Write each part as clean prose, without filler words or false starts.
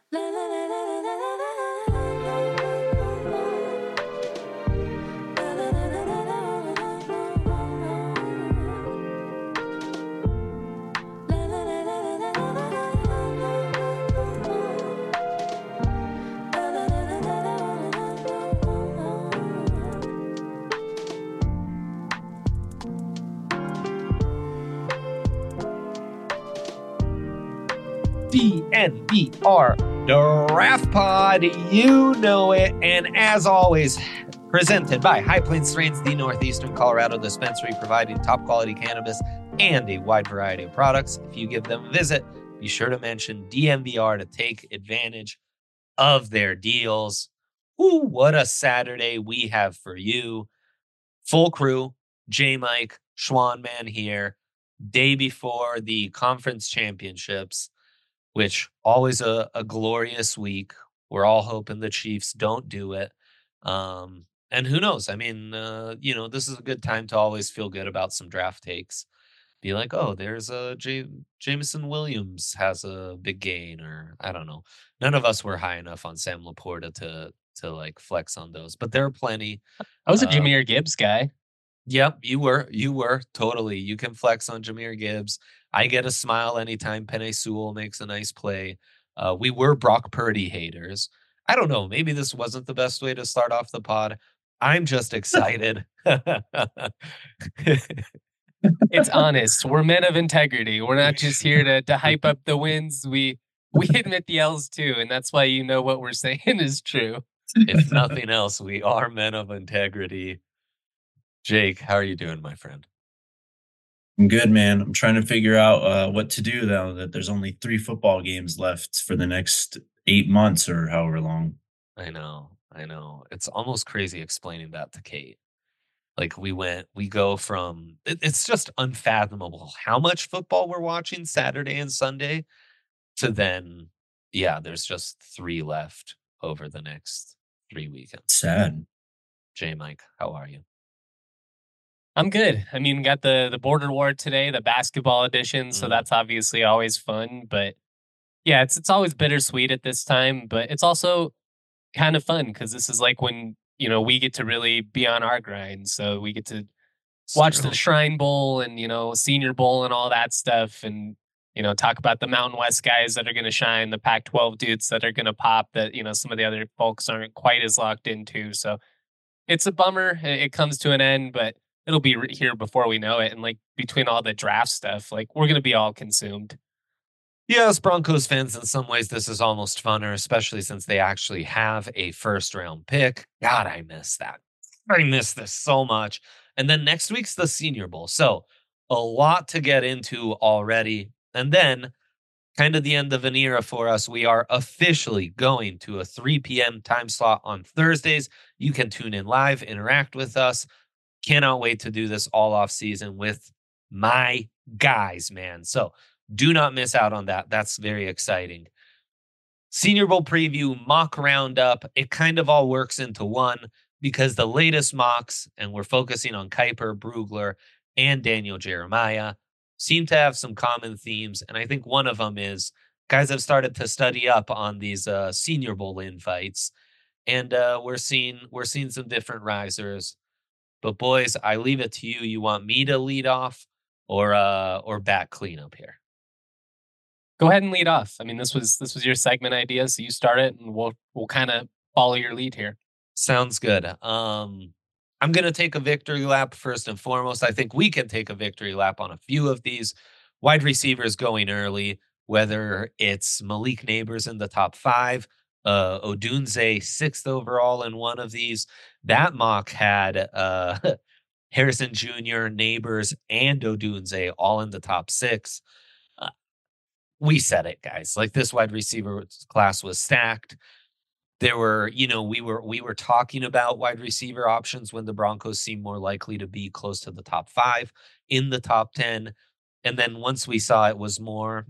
DNVR Draft Pod, you know it. And as always, presented by High Plains Strains, the Northeastern Colorado dispensary, providing top quality cannabis and a wide variety of products. If you give them a visit, be sure to mention DNVR to take advantage of their deals. Ooh, what a Saturday we have for you. Full crew, J-Mike, Schwan Man here, day before the conference championships, which always a glorious week. We're all hoping the Chiefs don't do it. And who knows? I mean, this is a good time to always feel good about some draft takes. Be like, oh, there's a Jameson Williams has a big gain, or I don't know. None of us were high enough on Sam Laporta to like flex on those, but there are plenty. I was a Jahmyr Gibbs guy. Yep, you were totally. You can flex on Jahmyr Gibbs. I get a smile anytime Penei Sewell makes a nice play. We were Brock Purdy haters. I don't know. Maybe this wasn't the best way to start off the pod. I'm just excited. It's honest. We're men of integrity. We're not just here to hype up the wins. We admit the L's too, and that's why you know what we're saying is true. If nothing else, we are men of integrity. Jake, how are you doing, my friend? I'm good, man. I'm trying to figure out what to do now that there's only 3 football games left for the next 8 months or however long. I know. It's almost crazy explaining that to Kate. Like we go from, it's just unfathomable how much football we're watching Saturday and Sunday to then, there's just 3 left over the next 3 weekends. Sad. J-Mike, how are you? I'm good. I mean, got the Border War today, the basketball edition, so that's obviously always fun. But yeah, it's always bittersweet at this time, but it's also kind of fun because this is like when we get to really be on our grind. So we get to watch the Shrine Bowl and Senior Bowl and all that stuff, and talk about the Mountain West guys that are going to shine, the Pac-12 dudes that are going to pop that some of the other folks aren't quite as locked into. So it's a bummer it comes to an end, but it'll be here before we know it. And like between all the draft stuff, like we're going to be all consumed. Yeah, as Broncos fans, in some ways, this is almost funner, especially since they actually have a first-round pick. God, I miss that. I miss this so much. And then next week's the Senior Bowl. So a lot to get into already. And then kind of the end of an era for us. We are officially going to a 3 p.m. time slot on Thursdays. You can tune in live, interact with us. Cannot wait to do this all off season with my guys, man. So do not miss out on that. That's very exciting. Senior Bowl preview, mock roundup. It kind of all works into one because the latest mocks, and we're focusing on Kiper, Brugler, and Daniel Jeremiah, seem to have some common themes. And I think one of them is guys have started to study up on these Senior Bowl invites. And we're seeing some different risers. But boys, I leave it to you. You want me to lead off or back cleanup here? Go ahead and lead off. I mean, this was your segment idea, so you start it, and we'll kind of follow your lead here. Sounds good. I'm gonna take a victory lap first and foremost. I think we can take a victory lap on a few of these wide receivers going early, whether it's Malik Neighbors in the top 5. Odunze 6th overall in one of these. That mock had Harrison Jr., Neighbors, and Odunze all in the top 6. We said it, guys. Like, this wide receiver class was stacked. There were, we were talking about wide receiver options when the Broncos seemed more likely to be close to the top 5, in the top 10. And then once we saw it was more,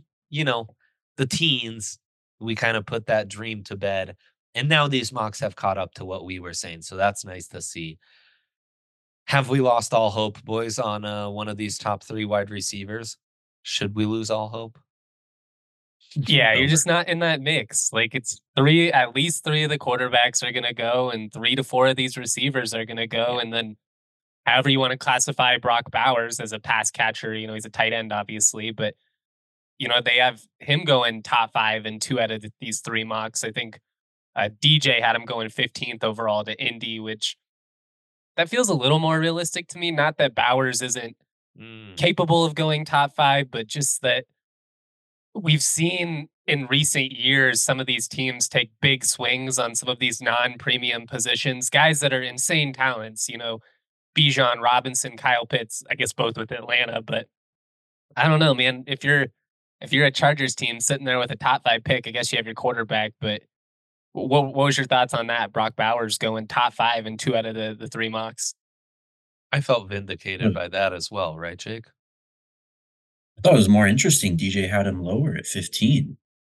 the teens, we kind of put that dream to bed. And now these mocks have caught up to what we were saying. So that's nice to see. Have we lost all hope, boys, on one of these top 3 wide receivers? Should we lose all hope? Yeah, you're over. just not in that mix. Like it's at least three of the quarterbacks are gonna go, and 3 to 4 of these receivers are gonna go, Yeah. and then however you want to classify Brock Bowers as a pass catcher, he's a tight end, obviously, but they have him going top 5 in 2 out of these 3 mocks. I think DJ had him going 15th overall to Indy, which that feels a little more realistic to me. Not that Bowers isn't Mm. capable of going top 5, but just that we've seen in recent years some of these teams take big swings on some of these non-premium positions, guys that are insane talents, Bijan Robinson, Kyle Pitts, I guess both with Atlanta, but I don't know, man. If you're a Chargers team sitting there with a top 5 pick, I guess you have your quarterback, but what was your thoughts on that? Brock Bowers going top 5 in 2 out of the 3 mocks. I felt vindicated by that as well, right, Jake? I thought it was more interesting. DJ had him lower at 15.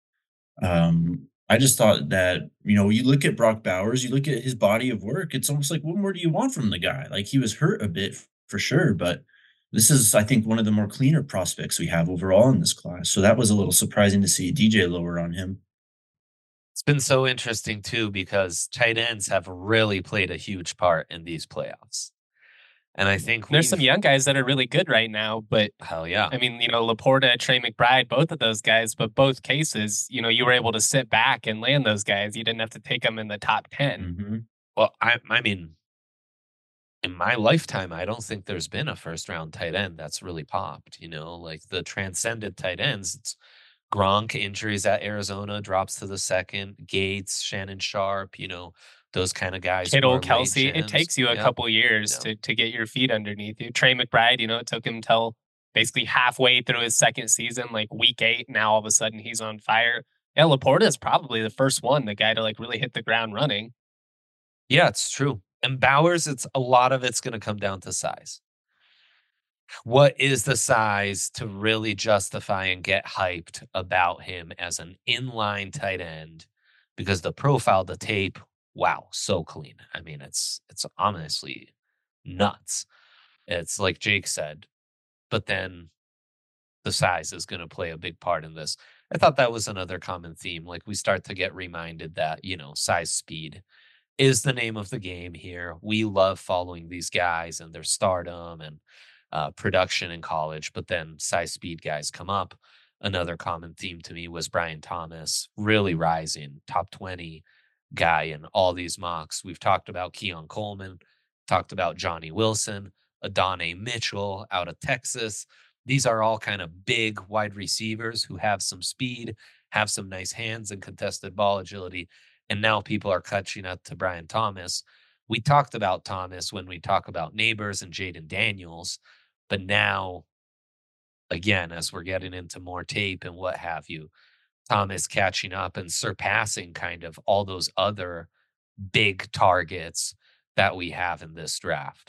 I just thought that, you look at Brock Bowers, you look at his body of work, it's almost like, what more do you want from the guy? Like, he was hurt a bit for sure, but this is, I think, one of the more cleaner prospects we have overall in this class. So that was a little surprising to see DJ lower on him. It's been so interesting too because tight ends have really played a huge part in these playoffs. And I think There's some we've young guys that are really good right now, but hell yeah. I mean, Laporta, Trey McBride, both of those guys, but both cases, you were able to sit back and land those guys. You didn't have to take them in the top 10. Hmm. Well, I mean, in my lifetime, I don't think there's been a first round tight end that's really popped, like the transcended tight ends. It's Gronk injuries at Arizona drops to the second, Gates, Shannon Sharp, those kind of guys who Kittle, are late Kelsey, it gens. takes you a Yep. couple years Yep. to get your feet underneath you. Trey McBride, it took him till basically halfway through his second season, like week 8. Now all of a sudden he's on fire. Yeah, Laporta is probably the first one, the guy to like really hit the ground running. Yeah, it's true. And Bowers, it's a lot of it's going to come down to size. What is the size to really justify and get hyped about him as an inline tight end? Because the profile, the tape, wow, so clean. I mean, it's honestly nuts. It's like Jake said, but then the size is going to play a big part in this. I thought that was another common theme. Like we start to get reminded that, size speed is the name of the game here. We love following these guys and their stardom and production in college, but then size speed guys come up. Another common theme to me was Brian Thomas really rising, top 20 guy in all these mocks. We've talked about Keon Coleman, talked about Johnny Wilson, Adonai Mitchell out of Texas. These are all kind of big wide receivers who have some speed, have some nice hands and contested ball agility. And now people are catching up to Brian Thomas. We talked about Thomas when we talk about Neighbors and Jaden Daniels, but now, again, as we're getting into more tape and what have you, Thomas catching up and surpassing kind of all those other big targets that we have in this draft.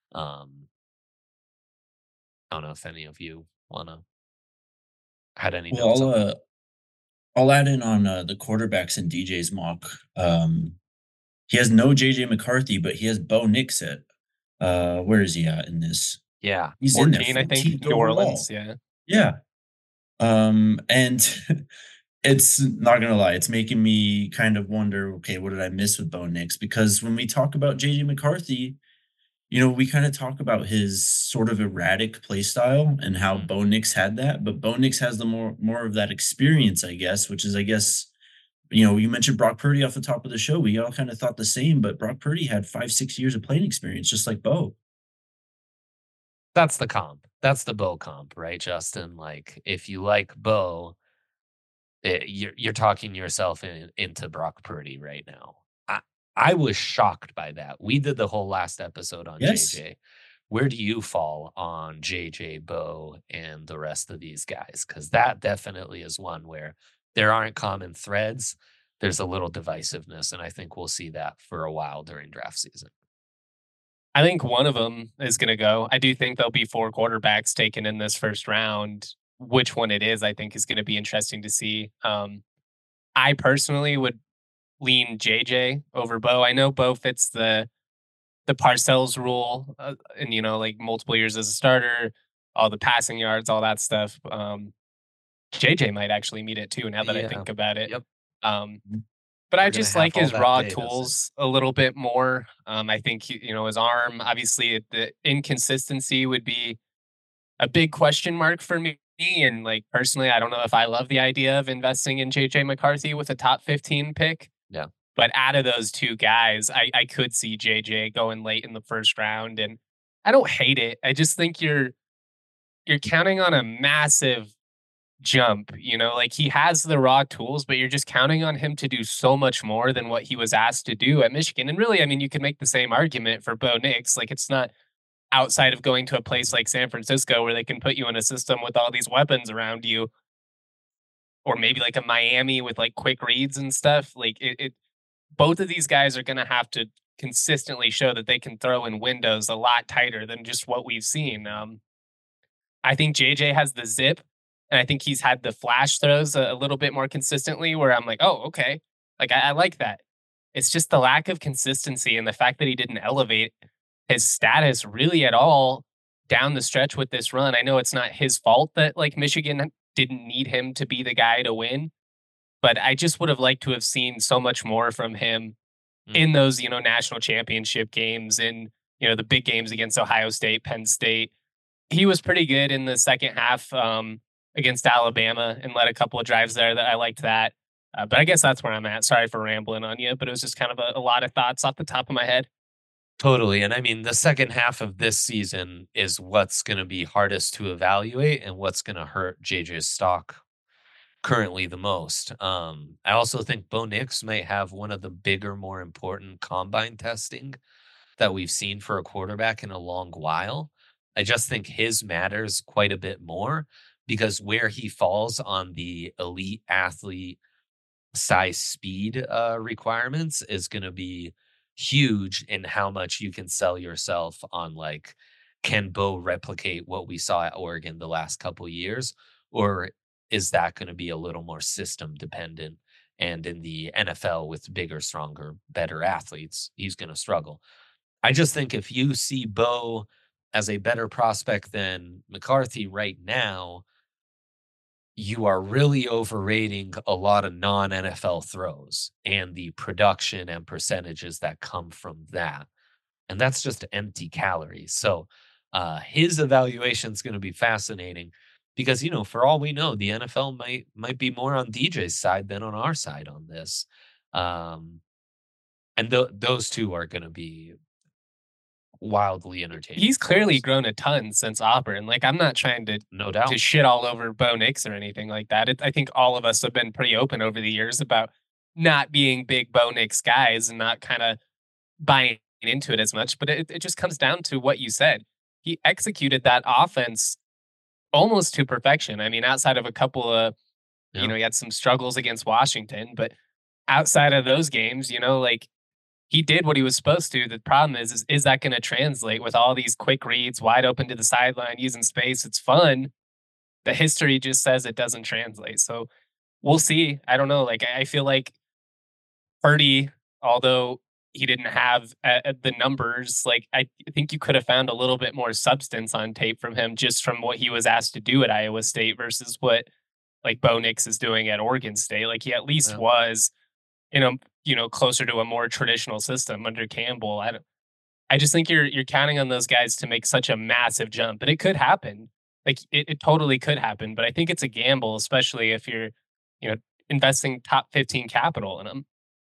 I don't know if any of you wanna had any Well, notes on that. I'll add in on the quarterbacks in DJ's mock. He has no JJ McCarthy, but he has Bo Nix at where is he at in this? Yeah. He's in there 14, I think, 14th New Orleans. overall. Yeah. Yeah. And it's not gonna lie, it's making me kind of wonder, okay, what did I miss with Bo Nix? Because when we talk about JJ McCarthy, we kind of talk about his sort of erratic play style and how Mhm. Bo Nix had that, but Bo Nix has the more of that experience, I guess, which is, I guess, you mentioned Brock Purdy off the top of the show. We all kind of thought the same, but Brock Purdy had 5, 6 years of playing experience, just like Bo. That's the comp. That's the Bo comp, right, Justin? Like, if you like Bo, you're talking yourself into Brock Purdy right now. I was shocked by that. We did the whole last episode on Yes. JJ. Where do you fall on JJ, Bo, and the rest of these guys? Because that definitely is one where there aren't common threads. There's a little divisiveness, and I think we'll see that for a while during draft season. I think one of them is going to go. I do think there'll be 4 quarterbacks taken in this first round. Which one it is, I think, is going to be interesting to see. I personally would lean JJ over Bo. I know Bo fits the Parcells rule, and like multiple years as a starter, all the passing yards, all that stuff. JJ might actually meet it too, now that I Yeah. think about it. Yep. Um, Mhm. but I We're gonna just have like all his that raw data. So tools a little bit more. I think his arm, obviously, the inconsistency would be a big question mark for me. And like personally, I don't know if I love the idea of investing in JJ McCarthy with a top 15 pick. yeah. But out of those two guys, I could see JJ going late in the first round. And I don't hate it. I just think you're counting on a massive jump, like he has the raw tools, but you're just counting on him to do so much more than what he was asked to do at Michigan. And really, I mean, you could make the same argument for Bo Nix. Like it's not outside of going to a place like San Francisco where they can put you in a system with all these weapons around you, or maybe like a Miami with like quick reads and stuff. Like it both of these guys are going to have to consistently show that they can throw in windows a lot tighter than just what we've seen. I think JJ has the zip, and I think he's had the flash throws a little bit more consistently where I'm like, oh, okay. Like I like that. It's just the lack of consistency and the fact that he didn't elevate his status really at all down the stretch with this run. I know it's not his fault that like Michigan didn't need him to be the guy to win, but I just would have liked to have seen so much more from him Mm. in those, national championship games, in, the big games against Ohio State, Penn State. He was pretty good in the second half against Alabama and led a couple of drives there that I liked that. But I guess that's where I'm at. Sorry for rambling on you, but it was just kind of a lot of thoughts off the top of my head. Totally. And I mean, the second half of this season is what's going to be hardest to evaluate and what's going to hurt JJ's stock currently the most. I also think Bo Nix might have one of the bigger, more important combine testing that we've seen for a quarterback in a long while. I just think his matters quite a bit more because where he falls on the elite athlete size speed requirements is going to be huge in how much you can sell yourself on like can Bo replicate what we saw at Oregon the last couple years, or is that going to be a little more system dependent, and in the NFL with bigger, stronger, better athletes he's going to struggle. I just think if you see Bo as a better prospect than McCarthy right now, you are really overrating a lot of non NFL throws and the production and percentages that come from that. And that's just empty calories. So his evaluation is going to be fascinating because, for all we know, the NFL might be more on DJ's side than on our side on this. Um, and those two are going to be wildly entertaining He's for clearly us. grown a ton since Auburn. Like I'm not trying to No doubt. shit all over Bo Nix or anything like that. I think all of us have been pretty open over the years about not being big Bo Nix guys and not kind of buying into it as much. But it just comes down to what you said. He executed that offense almost to perfection. I mean, outside of a couple of, Yeah. he had some struggles against Washington, but outside of those games, like he did what he was supposed to. The problem is that going to translate with all these quick reads, wide open to the sideline, using space? It's fun. The history just says it doesn't translate. So we'll see. I don't know. Like I feel like Purdy, although he didn't have the numbers, like I think you could have found a little bit more substance on tape from him just from what he was asked to do at Iowa State versus what like Bo Nix is doing at Oregon State. Like he at least Yeah. was, closer to a more traditional system under Campbell. I just think you're counting on those guys to make such a massive jump, and it could happen. Like it totally could happen, but I think it's a gamble, especially if you're, you know, investing top 15 capital in them.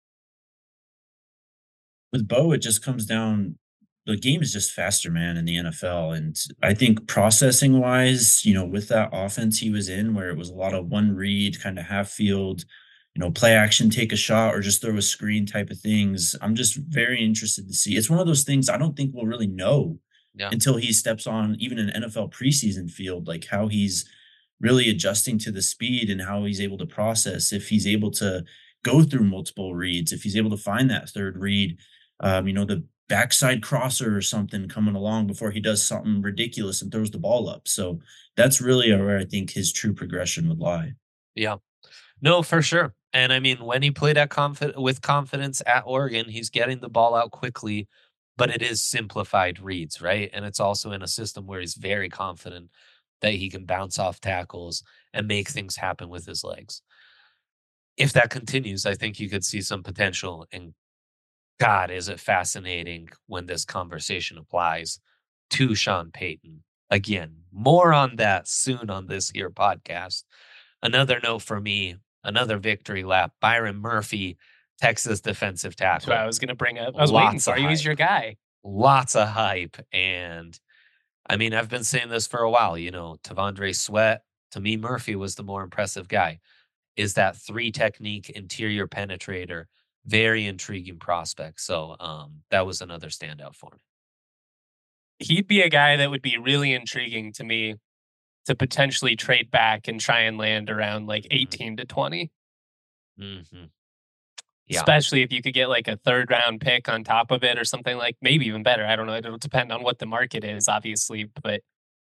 With Bo, it just comes down the game is just faster, man, in the NFL. And I think processing wise, with that offense he was in, where it was a lot of one read, kind of half field, play action, take a shot, or just throw a screen type of things. I'm just very interested to see. It's one of those things I don't think we'll really know Yeah. until he steps on even an NFL preseason field, like how he's really adjusting to the speed and how he's able to process, if he's able to go through multiple reads, if he's able to find that third read, the backside crosser or something coming along before he does something ridiculous and throws the ball up. So that's really where I think his true progression would lie. Yeah. No, for sure. And I mean, when he played with confidence at Oregon, he's getting the ball out quickly, but it is simplified reads, right? And it's also in a system where he's very confident that he can bounce off tackles and make things happen with his legs. If that continues, I think you could see some potential. And God, is it fascinating when this conversation applies to Sean Payton. Again, more on that soon on this here podcast. Another note for me, another victory lap. Byron Murphy, Texas defensive That's what I tackle. was going to bring up. I was waiting Lots for of you. He's your guy. Lots of hype. And I mean, I've been saying this for a while. T'Vondre Sweat, to me, Murphy was the more impressive guy. Is that 3 technique interior penetrator. Very intriguing prospect. So that was another standout for me. He'd be a guy that would be really intriguing to me to potentially trade back and try and land around like 18 to 20. Mm-hmm. Yeah. Especially if you could get like a 3rd round pick on top of it or something, like maybe even better. I don't know. It'll depend on what the market is, obviously, but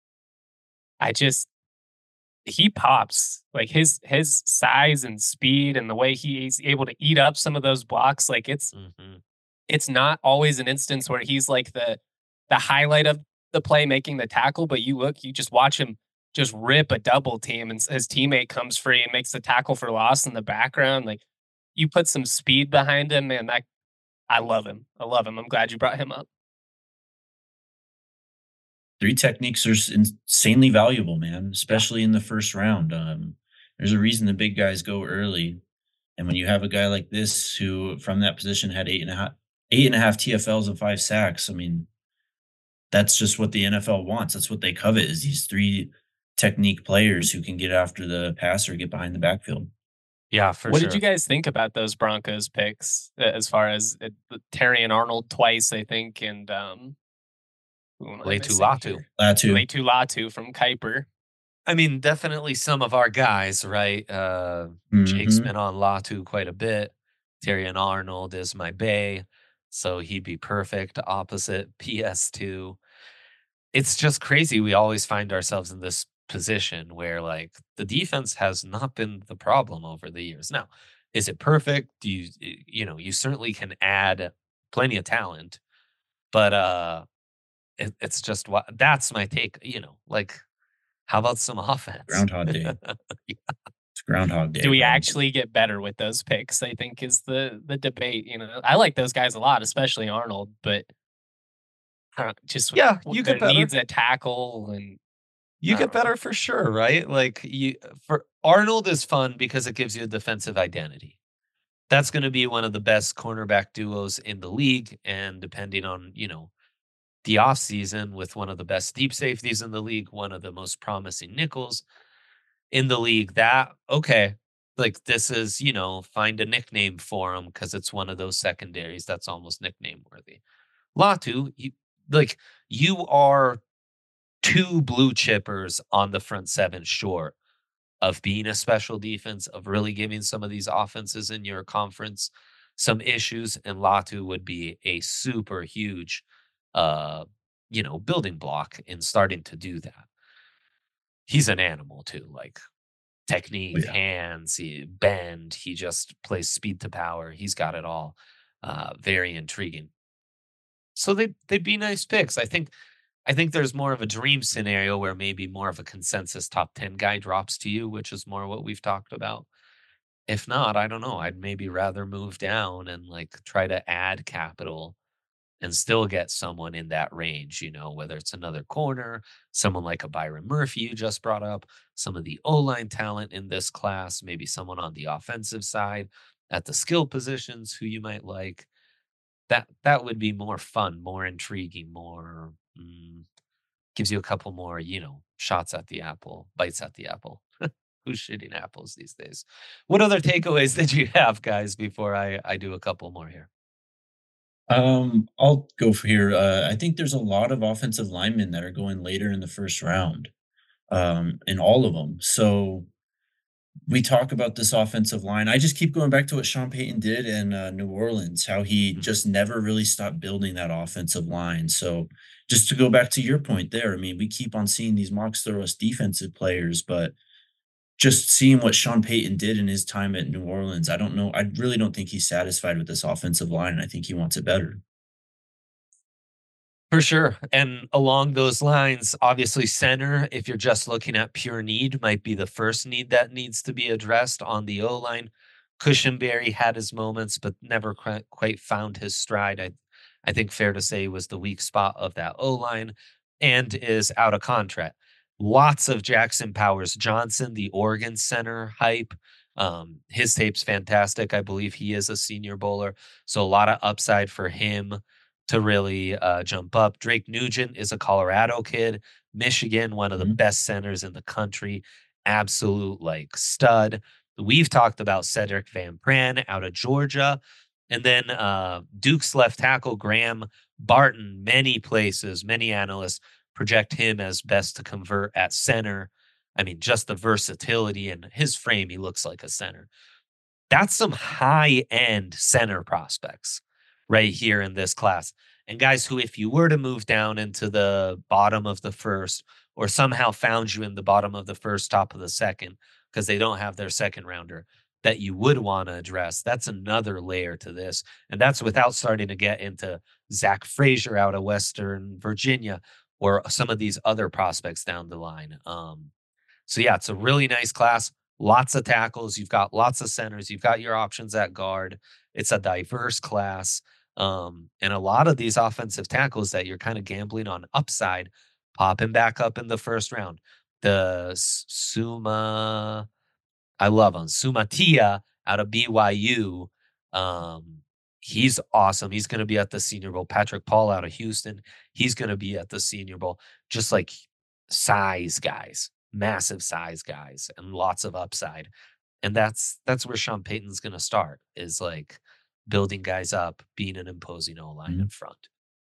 he pops. Like his size and speed and the way he's able to eat up some of those blocks. Like it's not always an instance where he's like the highlight of the play making the tackle, but you just watch him just rip a double team and his teammate comes free and makes the tackle for loss in the background. Like you put some speed behind him, man. I love him. I'm glad you brought him up. 3 techniques are insanely valuable, man, especially in the first round. There's a reason the big guys go early. And when you have a guy like this who from that position had 8.5 TFLs and 5 sacks, I mean, that's just what the NFL wants. That's what they covet is these 3 technique players who can get after the passer, get behind the backfield. Yeah, for what sure. What did you guys think about those Broncos picks as far as Terry and Arnold twice, I think, and Laiatu Latu from Kuiper. I mean, definitely some of our guys, right? Jake's been on Latu quite a bit. Terry and Arnold is my bae, so he'd be perfect opposite PS2. It's just crazy. We always find ourselves in this position where like the defense has not been the problem over the years. Now, is it perfect? You certainly can add plenty of talent, but it's just what that's my take. Like how about some offense? Groundhog Day. It's Groundhog Day. Do we actually get better with those picks? I think is the debate. I like those guys a lot, especially Arnold, but you get better. Needs a tackle and you get better for sure, right? Like for Arnold is fun because it gives you a defensive identity. That's going to be one of the best cornerback duos in the league, and depending on the offseason with one of the best deep safeties in the league, one of the most promising nickels in the league. Like this is, find a nickname for him because it's one of those secondaries that's almost nickname worthy. Latu, you are 2 blue chippers on the front 7 short of being a special defense, of really giving some of these offenses in your conference some issues, and Latu would be a super huge building block in starting to do that. He's an animal too, like technique, hands, bend. He just plays speed to power. He's got it all. Very intriguing. So they'd be nice picks. I think there's more of a dream scenario where maybe more of a consensus top 10 guy drops to you, which is more what we've talked about. If not, I don't know. I'd maybe rather move down and try to add capital and still get someone in that range, whether it's another corner, someone like a Byron Murphy you just brought up, some of the O-line talent in this class, maybe someone on the offensive side at the skill positions who you might like. That would be more fun, more intriguing, more gives you a couple more, shots at the apple, bites at the apple. Who's shooting apples these days? What other takeaways did you have, guys, before I do a couple more here? I'll go for here. I think there's a lot of offensive linemen that are going later in the first round, in all of them. So we talk about this offensive line. I just keep going back to what Sean Payton did in New Orleans, how he just never really stopped building that offensive line. So just to go back to your point there, I mean, we keep on seeing these Mox Thoros defensive players, but just seeing what Sean Payton did in his time at New Orleans, I don't know. I really don't think he's satisfied with this offensive line. I think he wants it better. For sure. And along those lines, obviously, center, if you're just looking at pure need, might be the first need that needs to be addressed on the O line. Cushenberry had his moments, but never quite found his stride. I think fair to say was the weak spot of that O line and is out of contract. Lots of Jackson Powers Johnson, the Oregon center hype. His tape's fantastic. I believe he is a senior bowler. So a lot of upside for him to really jump up. Drake Nugent is a Colorado kid. Michigan, one of the Mhm. best centers in the country. Absolute like stud. We've talked about Cedric Van Pran out of Georgia. And then Duke's left tackle, Graham Barton, many places, many analysts project him as best to convert at center. I mean, just the versatility and his frame, he looks like a center. That's some high end center prospects right here in this class. And guys who, if you were to move down into the bottom of the first, or somehow found you in the bottom of the first, top of the second, because they don't have their second rounder that you would want to address, that's another layer to this. And that's without starting to get into Zach Frazier out of Western Virginia or some of these other prospects down the line. So yeah, it's a really nice class. Lots of tackles. You've got lots of centers. You've got your options at guard. It's a diverse class. And a lot of these offensive tackles that you're kind of gambling on upside, popping back up in the first round. Suma, I love him. Sumatia out of BYU. Um, he's awesome. He's going to be at the Senior Bowl. Patrick Paul out of Houston. He's going to be at the Senior Bowl. Just like size guys, massive size guys, and lots of upside. And that's where Sean Payton's going to start. Is like building guys up, being an imposing O line in Mhm. front.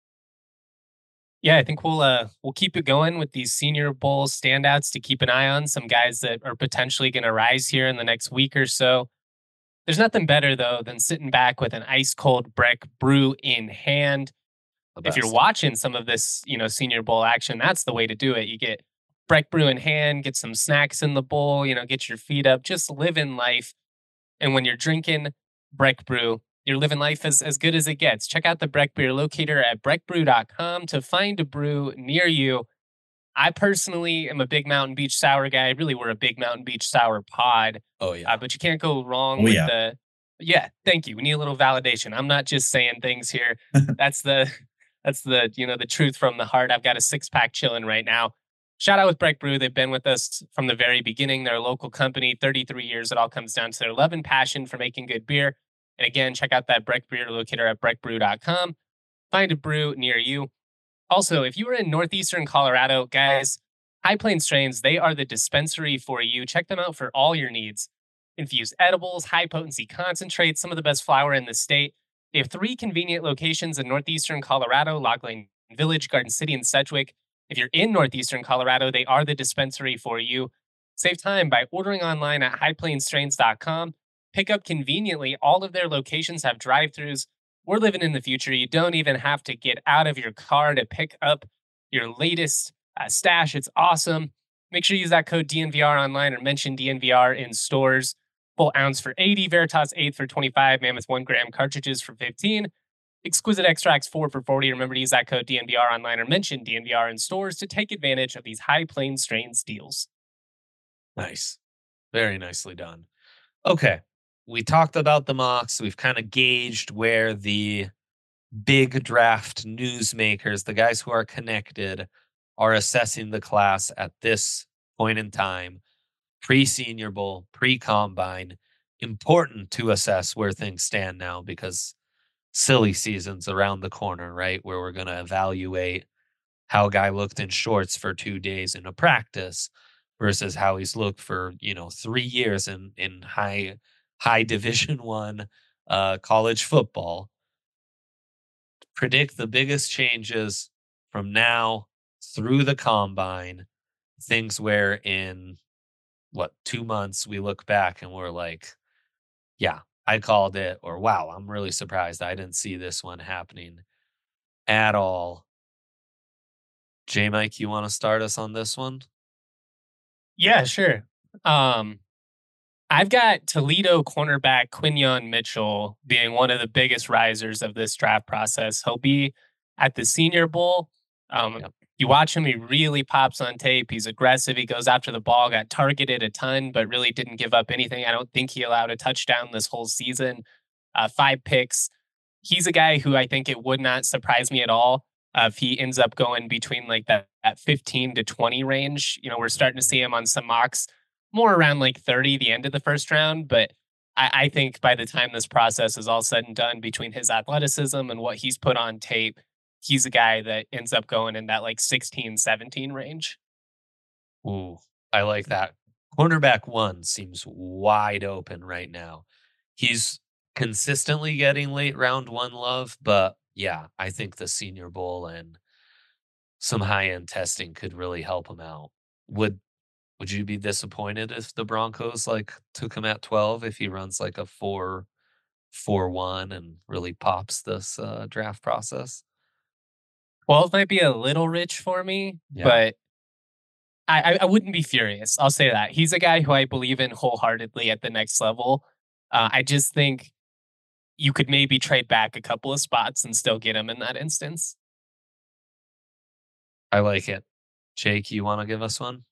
Yeah, I think we'll keep it going with these Senior Bowl standouts to keep an eye on. Some guys that are potentially going to rise here in the next week or so. There's nothing better though than sitting back with an ice cold Breck brew in hand. The If you're best. watching some of this, Senior Bowl action, that's the way to do it. You get Breck brew in hand, get some snacks in the bowl, get your feet up, just living life. And when you're drinking Breck brew, you're living life as good as it gets. Check out the Breck beer locator at breckbrew.com to find a brew near you. I personally am a big Mountain Beach Sour guy. Really, we're a big Mountain Beach Sour pod, Oh yeah. but you can't go wrong Oh, with yeah. the. Yeah, thank you. We need a little validation. I'm not just saying things here. That's the the truth from the heart. I've got a 6-pack chilling right now. Shout out with Breck Brew. They've been with us from the very beginning. They're a local company, 33 years. It all comes down to their love and passion for making good beer. And again, check out that Breck beer locator at breckbrew.com. Find a brew near you. Also, if you are in northeastern Colorado, guys, High Plains Strains, they are the dispensary for you. Check them out for all your needs. Infused edibles, high potency concentrates, some of the best flower in the state. They have 3 convenient locations in northeastern Colorado: Log Lane Village, Garden City, and Sedgwick. If you're in northeastern Colorado, they are the dispensary for you. Save time by ordering online at highplainsstrains.com. Pick up conveniently. All of their locations have drive-throughs. We're living in the future. You don't even have to get out of your car to pick up your latest stash. It's awesome. Make sure you use that code DNVR online or mention DNVR in stores. Full ounce for 80, Veritas 8 for 25, Mammoth 1 gram cartridges for 15, Exquisite Extracts 4 for 40. Remember to use that code DNVR online or mention DNVR in stores to take advantage of these High Plains Strains deals. Nice. Very nicely done. Okay. We talked about the mocks. We've kind of gauged where the big draft newsmakers, the guys who are connected, are assessing the class at this point in time, pre-Senior Bowl, pre-combine. Important to assess where things stand now because silly season's around the corner, right? Where we're going to evaluate how a guy looked in shorts for 2 days in a practice versus how he's looked for 3 years in high division one college football. Predict the biggest changes from now through the combine, things where in 2 months we look back and we're like, yeah, I called it, or wow, I'm really surprised I didn't see this one happening at all. J Mike, you want to start us on this one? Yeah, sure. I've got Toledo cornerback Quinyon Mitchell being one of the biggest risers of this draft process. He'll be at the Senior Bowl. Yep. You watch him, he really pops on tape. He's aggressive. He goes after the ball, got targeted a ton, but really didn't give up anything. I don't think he allowed a touchdown this whole season. 5 picks. He's a guy who I think it would not surprise me at all if he ends up going between like that 15 to 20 range. We're starting to see him on some mocks more around like 30, the end of the first round. But I think by the time this process is all said and done, between his athleticism and what he's put on tape, he's a guy that ends up going in that like 16, 17 range. Ooh, I like that. Cornerback 1 seems wide open right now. He's consistently getting late round 1 love, but yeah, I think the Senior Bowl and some high-end testing could really help him out. Would would you be disappointed if the Broncos, like, took him at 12 if he runs, like, a 4.41 and really pops this, draft process? 12 might be a little rich for me, Yeah. but I wouldn't be furious. I'll say that. He's a guy who I believe in wholeheartedly at the next level. I just think you could maybe trade back a couple of spots and still get him in that instance. I like it. Jake, you wanna give us one?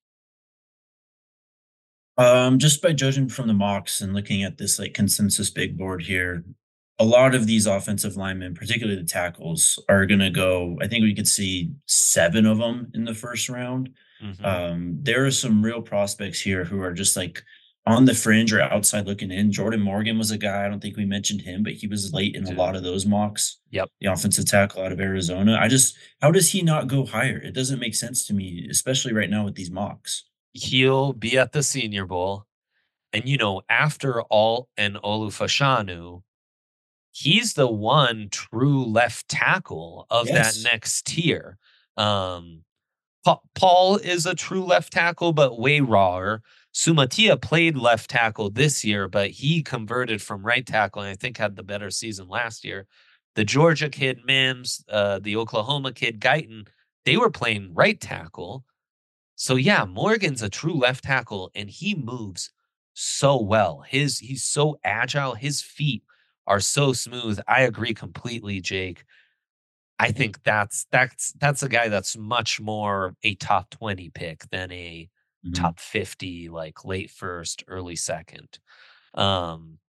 Just by judging from the mocks and looking at this like consensus big board here, a lot of these offensive linemen, particularly the tackles, are gonna go. I think we could see 7 of them in the first round. Mhm. There are some real prospects here who are just like on the fringe or outside looking in. Jordan Morgan was a guy, I don't think we mentioned him, but he was late in a Dude. lot of those mocks. Yep. The offensive tackle out of Arizona. How does he not go higher? It doesn't make sense to me, especially right now with these mocks. He'll be at the Senior Bowl, and, after Alt and Olufashanu, he's the one true left tackle of that Yes. next tier. Um, Paul is a true left tackle, but way rawer. Sumatia played left tackle this year, but he converted from right tackle and I think had the better season last year. The Georgia kid, Mims, the Oklahoma kid, Guyton, they were playing right tackle. So yeah, Morgan's a true left tackle and he moves so well. He's so agile. His feet are so smooth. I agree completely, Jake. I think that's a guy that's much more a top 20 pick than a Mhm. top 50, like late first, early second. Um,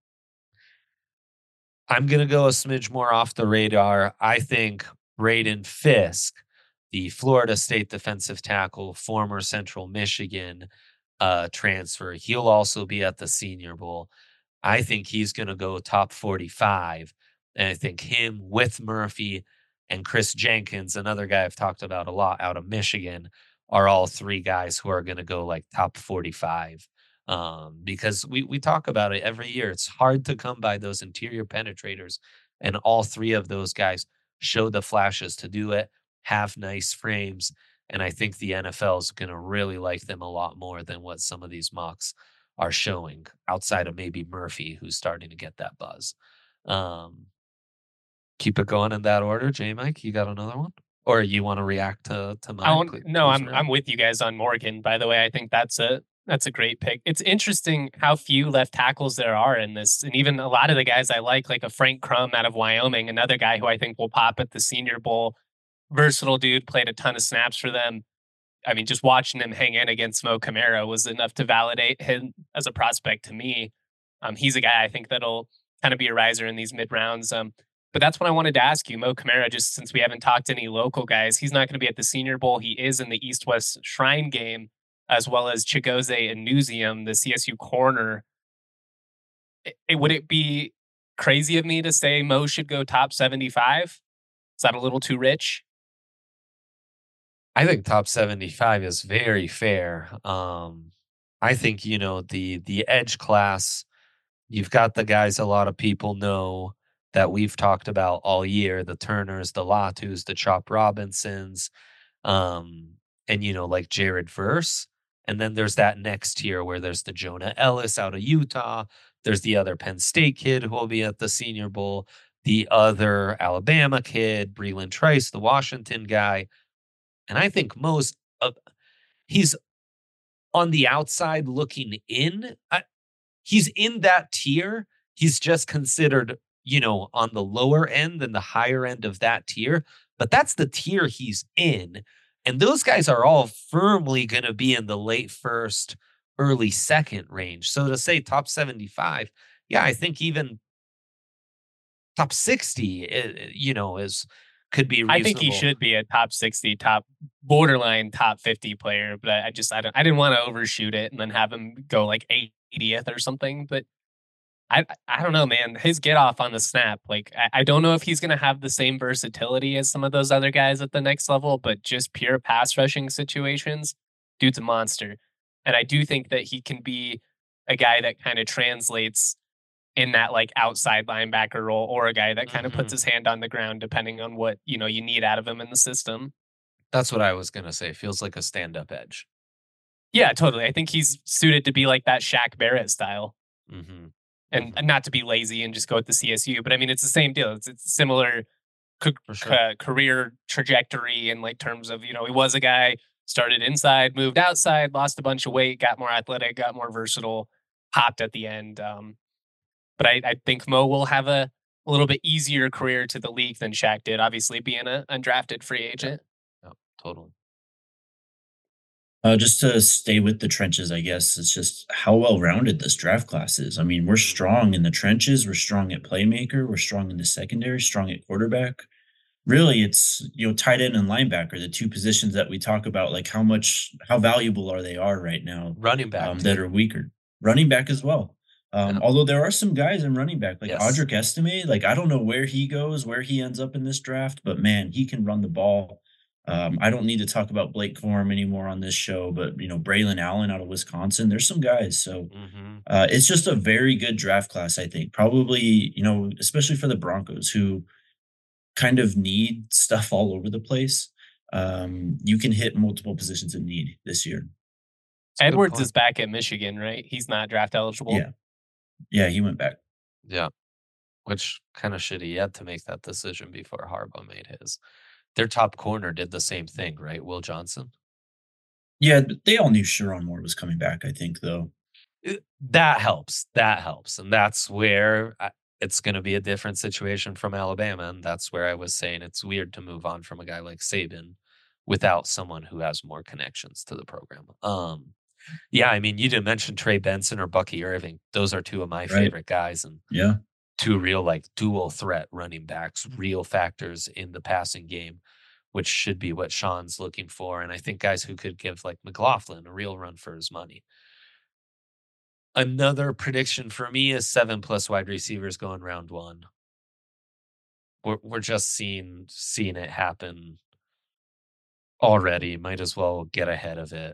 I'm gonna go a smidge more off the radar. I think Braden Fisk, the Florida State defensive tackle, former Central Michigan transfer, he'll also be at the Senior Bowl. I think he's gonna go top 45. And I think him with Murphy and Chris Jenkins, another guy I've talked about a lot out of Michigan, are all 3 guys who are gonna go like top 45. Because we talk about it every year. It's hard to come by those interior penetrators, and all 3 of those guys show the flashes to do it, have nice frames, and I think the NFL is gonna really like them a lot more than what some of these mocks are showing outside of maybe Murphy, who's starting to get that buzz. Um, keep it going in that order. J Mike, you got another one? Or you want to react to I mine? won't, no, Cruise I'm around. with you guys on Morgan. By the way, I think that's a great pick. It's interesting how few left tackles there are in this, and even a lot of the guys I like a Frank Crum out of Wyoming, another guy who I think will pop at the Senior Bowl. Versatile dude, played a ton of snaps for them. I mean, just watching him hang in against Mo Camara was enough to validate him as a prospect to me. He's a guy I think that'll kind of be a riser in these mid rounds. But that's what I wanted to ask you, Mo Camara. Just since we haven't talked to any local guys, he's not going to be at the Senior Bowl. He is in the East West Shrine game, as well as Chigoze and Newsium, the CSU corner. Would it be crazy of me to say Mo should go top 75? Is that a little too rich? I think top 75 is very fair. I think, the edge class, you've got the guys a lot of people know that we've talked about all year, the Turners, the Latus, the Chop Robinsons, um, and like Jared Verse. And then there's that next tier where there's the Jonah Ellis out of Utah. There's the other Penn State kid who will be at the Senior Bowl, the other Alabama kid, Breland Trice, the Washington guy. And I think most of he's on the outside looking in. He's in that tier. He's just considered on the lower end than the higher end of that tier, but that's the tier he's in. And those guys are all firmly going to be in the late first, early second range. So to say top 75, yeah, I think even top 60, is could be I think he reasonable. should be a top 60, top borderline top 50 player, but I didn't want to overshoot it and then have him go like 80th or something. But I don't know, man. His get off on the snap, like I don't know if he's gonna have the same versatility as some of those other guys at the next level, but just pure pass rushing situations, dude's a monster. And I do think that he can be a guy that kind of translates in that like outside linebacker role, or a guy that kind of puts Mhm. his hand on the ground depending on what you need out of him in the system. That's what I was going to say. Feels like a stand-up edge. Yeah, totally. I think he's suited to be like that Shaq Barrett style. Mhm. And Mhm. not to be lazy and just go with the CSU, but I mean it's the same deal. It's similar For sure. career trajectory in like terms of he was a guy started inside, moved outside, lost a bunch of weight, got more athletic, got more versatile, popped at the end. But I think Mo will have a little bit easier career to the league than Shaq did, obviously being an undrafted free Yep. agent. Yep. Totally. Just to stay with the trenches, I guess it's just how well rounded this draft class is. I mean, we're Mhm. strong in the trenches, we're strong at playmaker, we're strong in the secondary, strong at quarterback. Really, it's tight end and linebacker, the two positions that we talk about, like how valuable are right now, Running back that too. are weaker. Running back as well. Yeah. Although there are some guys in running back, like Yes. Audric Estime, like I don't know where he goes, where he ends up in this draft, but man, he can run the ball. I don't need to talk about Blake Corum anymore on this show, but Braylon Allen out of Wisconsin, there's some guys. So Mhm. it's just a very good draft class, I think. Probably, especially for the Broncos, who kind of need stuff all over the place. You can hit multiple positions of need this year. It's a good Edwards is point. back at Michigan, right? He's not draft eligible. Yeah. Yeah, he went back. Yeah. Which kind of shitty. He had to make that decision before Harbaugh made his. Their top corner did the same thing, right? Will Johnson. Yeah, but they all knew Sharon Moore was coming back, I think, though. That helps. That helps. And that's where it's going to be a different situation from Alabama. And that's where I was saying it's weird to move on from a guy like Saban without someone who has more connections to the program. Yeah, I mean, you didn't mention Trey Benson or Bucky Irving. Those are two of my Right. favorite guys and Yeah. two real like dual threat running backs, real factors in the passing game, which should be what Sean's looking for. And I think guys who could give like McLaughlin a real run for his money. Another prediction for me is 7+ wide receivers going round one. We're just seeing it happen already. Might as well get ahead of it.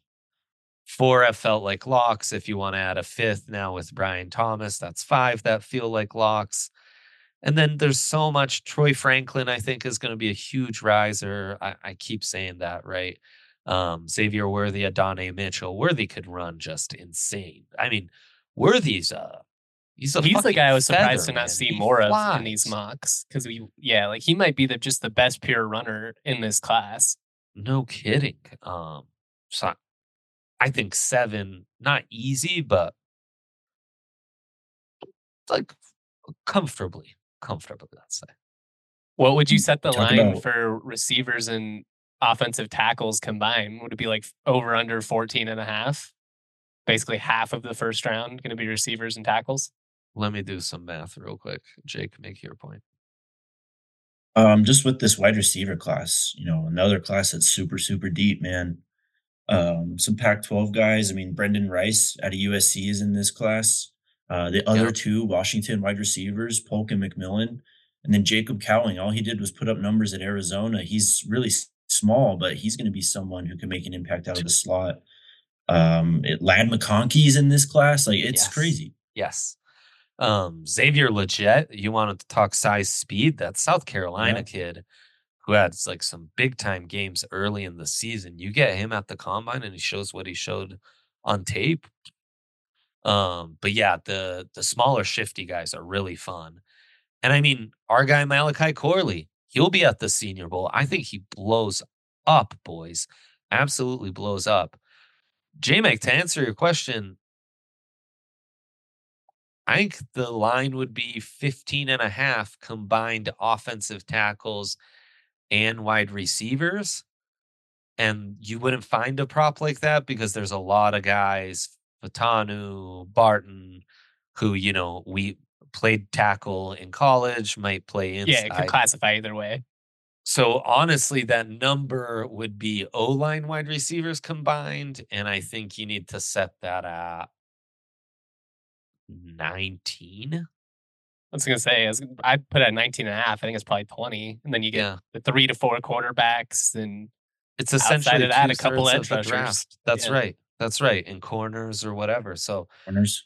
Four have felt like locks. If you want to add a fifth now with Brian Thomas, that's five that feel like locks. And then there's so much. Troy Franklin, I think, is going to be a huge riser. I keep saying that, right? Xavier Worthy, Adonai Mitchell. Worthy could run just insane. I mean, Worthy's he's a He's the fucking guy I was surprised feather, to not man. see He more of in these flies. mocks because like he might be just the best pure runner in this class. No kidding. So I think seven, not easy, but like comfortably, let's say. What would you set You the talk line about for receivers and offensive tackles combined? Would it be like over under 14 and a half? Basically half of the first round going to be receivers and tackles. Let me do some math real quick. Jake, make your point. just with this wide receiver class, another class that's super, super deep, man. Some Pac-12 guys. I mean, Brendan Rice out of USC is in this class. The other Yeah. two Washington wide receivers, Polk and McMillan, and then Jacob Cowing. All he did was put up numbers at Arizona. He's really small, but he's going to be someone who can make an impact out of the slot. Lad McConkey's in this class. Like, it's Yes. crazy. Yes. Xavier Legette, you wanted to talk size speed? That South Carolina Yeah. kid who had like some big time games early in the season. You get him at the combine and he shows what he showed on tape. But yeah, the smaller shifty guys are really fun. And I mean, our guy Malachi Corley, he'll be at the Senior Bowl. I think he blows up, boys. Absolutely blows up. J Mac, to answer your question, I think the line would be 15.5 combined offensive tackles and wide receivers. And you wouldn't find a prop like that because there's a lot of guys, Fatanu, Barton, who, we played tackle in college, might play Yeah, it could inside. classify either way. So honestly, that number would be O-line wide receivers combined. And I think you need to set that at 19. I was going to say, I'd put it at 19 and a half. I think it's probably 20. And then you get Yeah. the 3 to 4 quarterbacks. And It's outside essentially of that, a couple 2/3 edge of the rushers. draft. That's Yeah. right. That's right. In corners or whatever. So, Corners.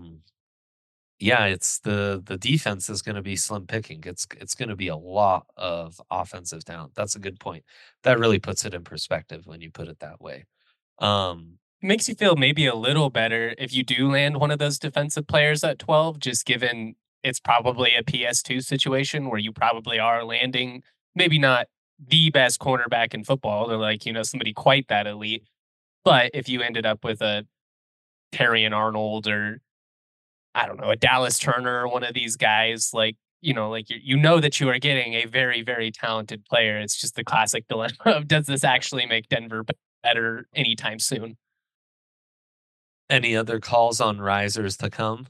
yeah, it's the defense is going to be slim picking. It's going to be a lot of offensive talent. That's a good point. That really puts it in perspective when you put it that way. It makes you feel maybe a little better if you do land one of those defensive players at 12, just given it's probably a PS2 situation where you probably are landing maybe not the best cornerback in football or like, somebody quite that elite. But if you ended up with a Terrion Arnold or I don't know, a Dallas Turner or one of these guys, like, like you know that you are getting a very, very talented player. It's just the classic dilemma of does this actually make Denver better anytime soon? Any other calls on risers to come?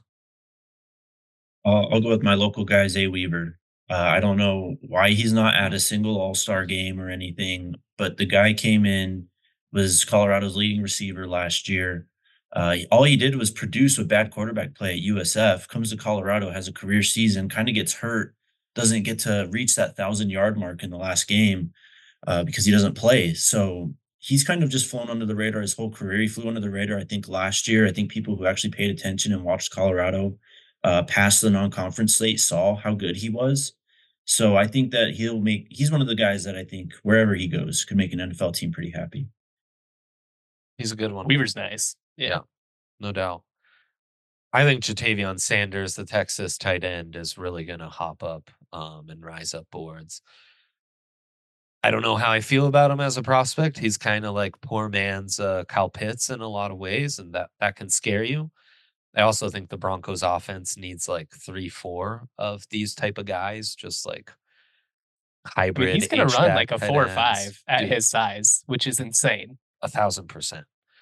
I'll go with my local guy, Zay Weaver. I don't know why he's not at a single All-Star game or anything, but the guy came in, was Colorado's leading receiver last year. All he did was produce with bad quarterback play at USF, comes to Colorado, has a career season, kind of gets hurt, doesn't get to reach that 1,000-yard mark in the last game because he doesn't play. So he's kind of just flown under the radar his whole career. He flew under the radar, I think, last year. I think people who actually paid attention and watched Colorado past the non-conference slate saw how good he was. So I think that he's one of the guys that I think wherever he goes could make an NFL team pretty happy. He's a good one. Weaver's nice. Yeah. No doubt. I think Jatavion Sanders, the Texas tight end, is really going to hop up and rise up boards. I don't know how I feel about him as a prospect. He's kind of like poor man's Kyle Pitts in a lot of ways, and that can scare you. I also think the Broncos offense needs like 3-4 of these type of guys, just like hybrid. He's going to run like a 4 or 5 ends. at his size, which is insane. 1,000%.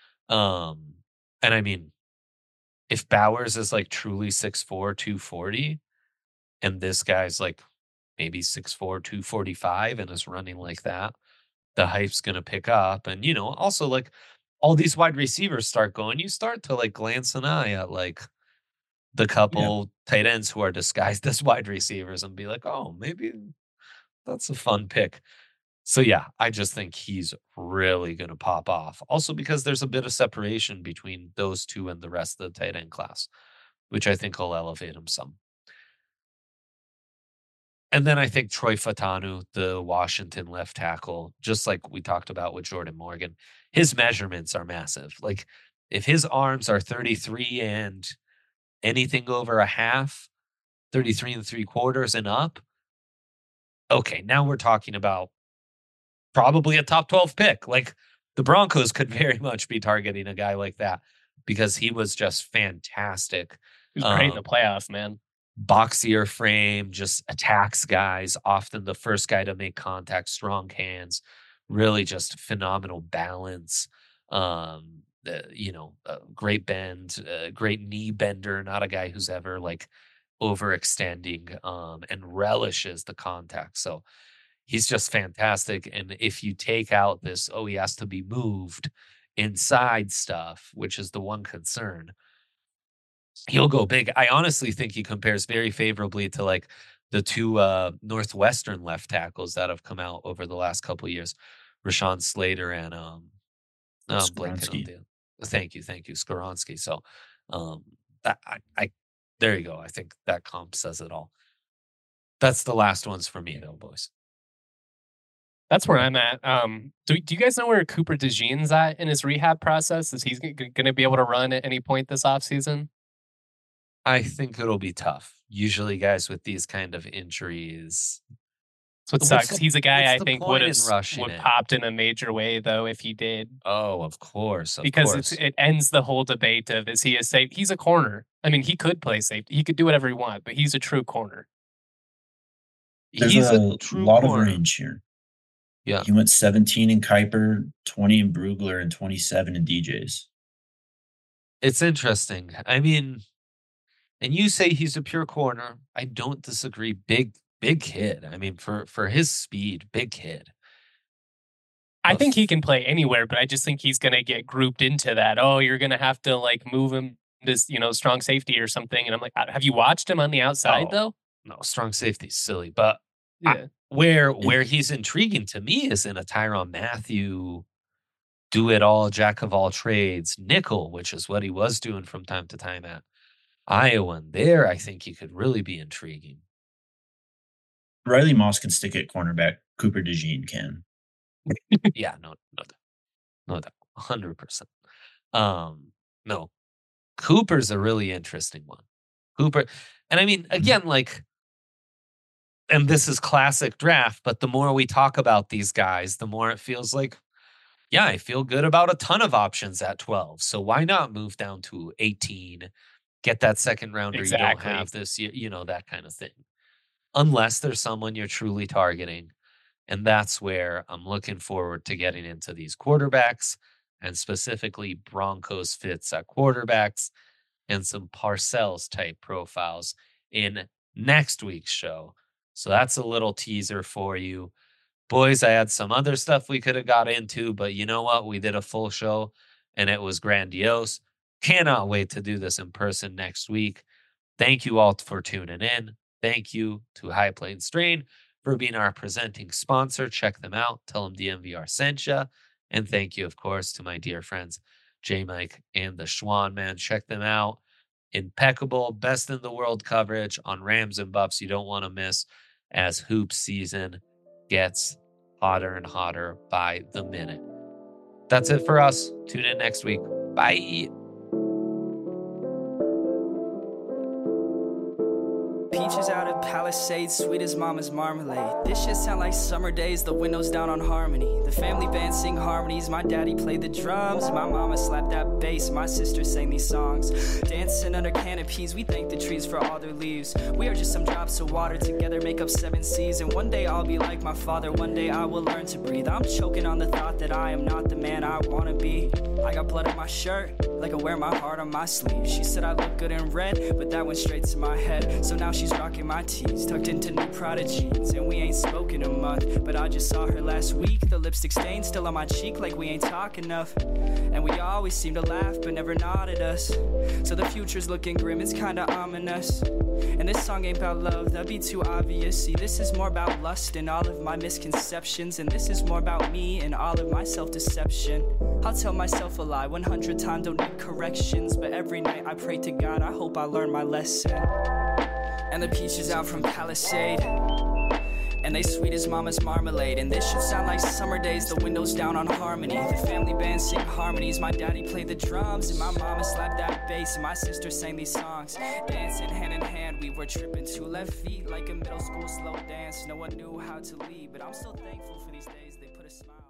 And I mean, if Bowers is like truly 6'4", 240, and this guy's like maybe 6'4", 245 and is running like that, the hype's going to pick up. And, also like all these wide receivers start going, you start to like glance an eye at like the couple tight ends who are disguised as wide receivers and be like, oh, maybe that's a fun pick. So, yeah, I just think he's really going to pop off. Also because there's a bit of separation between those two and the rest of the tight end class, which I think will elevate him some. And then I think Troy Fatanu, the Washington left tackle, just like we talked about with Jordan Morgan, his measurements are massive. Like if his arms are 33 and anything over a half, 33 3/4 and up, okay, now we're talking about probably a top 12 pick. Like the Broncos could very much be targeting a guy like that because he was just fantastic. He was great in the playoffs, man. Boxier frame, just attacks guys, often the first guy to make contact, strong hands, really just phenomenal balance. Great bend, great knee bender, not a guy who's ever like overextending and relishes the contact. So he's just fantastic. And if you take out this, he has to be moved inside stuff, which is the one concern, he'll go big. I honestly think he compares very favorably to like the two Northwestern left tackles that have come out over the last couple of years, Rashawn Slater and Skoronski. Thank you, Skoronski. So there you go. I think that comp says it all. That's the last ones for me, though, boys. That's where I'm at. Do you guys know where Cooper DeJean's at in his rehab process? Is he going to be able to run at any point this offseason? I think it'll be tough. Usually guys with these kind of injuries. That's what sucks. He's a guy I think would have it? popped in a major way, though, if he did. Oh, of course. Because it ends the whole debate of, is he a safe? He's a corner. I mean, he could play safety. He could do whatever he wants, but he's a true corner. There's He's a a true lot of corner. range here. Yeah. He went 17 in Kuiper, 20 in Brugler, and 27 in DJs. It's interesting. I mean, and you say he's a pure corner. I don't disagree. Big kid. I mean, for his speed, big kid. I But think he can play anywhere, but I just think he's going to get grouped into that. Oh, you're going to have to like move him to, strong safety or something. And I'm like, have you watched him on the outside Oh, though? no, strong safety's silly. But Yeah. where he's intriguing to me is in a Tyrann Mathieu do it all, jack of all trades, nickel, which is what he was doing from time to time at Iowa. And there, I think he could really be intriguing. Riley Moss can stick at cornerback. Cooper DeJean can. Yeah, no doubt, 100%. No, Cooper's a really interesting one. Cooper, and I mean, again, like, and this is classic draft, but the more we talk about these guys, the more it feels like, yeah, I feel good about a ton of options at 12. So why not move down to 18, get that second rounder you don't Exactly. have this year, that kind of thing. Unless there's someone you're truly targeting. And that's where I'm looking forward to getting into these quarterbacks, and specifically Broncos fits at quarterbacks and some Parcells type profiles in next week's show. So that's a little teaser for you. Boys, I had some other stuff we could have got into, but you know what? We did a full show and it was grandiose. Cannot wait to do this in person next week. Thank you all for tuning in. Thank you to High Plains Strain for being our presenting sponsor. Check them out. Tell them DMVR sent you. And thank you, of course, to my dear friends, J Mike and the Schwan Man. Check them out. Impeccable, best in the world coverage on Rams and Buffs you don't want to miss as hoop season gets hotter and hotter by the minute. That's it for us. Tune in next week. Bye. Peaches out of Palisades, sweet as mama's marmalade. This shit sound like summer days, the windows down on Harmony. The family band sing harmonies, my daddy played the drums. My mama slapped that bass, my sister sang these songs. Dancing under canopies, we thank the trees for all their leaves. We are just some drops of water, together make up 7 seas. And one day I'll be like my father, one day I will learn to breathe. I'm choking on the thought that I am not the man I wanna be. I got blood on my shirt, like I wear my heart on my sleeve. She said I look good in red, but that went straight to my head. So now she's rocking my tees, tucked into new Prada jeans. And we ain't spoken a month, but I just saw her last week. The lipstick stain still on my cheek, like we ain't talk enough. And we always seem to laugh, but never nod at us. So the future's looking grim, it's kinda ominous. And this song ain't about love, that'd be too obvious. See, this is more about lust and all of my misconceptions. And this is more about me and all of my self-deception. I'll tell myself a lie 100 times, don't need corrections. But every night I pray to God, I hope I learn my lesson. And the peaches out from Palisade, and they sweet as mama's marmalade. And this should sound like summer days, the windows down on Harmony. The family band sing harmonies, my daddy played the drums. And my mama slapped that bass, and my sister sang these songs. Dancing hand in hand, we were tripping 2 left feet like a middle school slow dance. No one knew how to lead, but I'm so thankful for these days, they put a smile.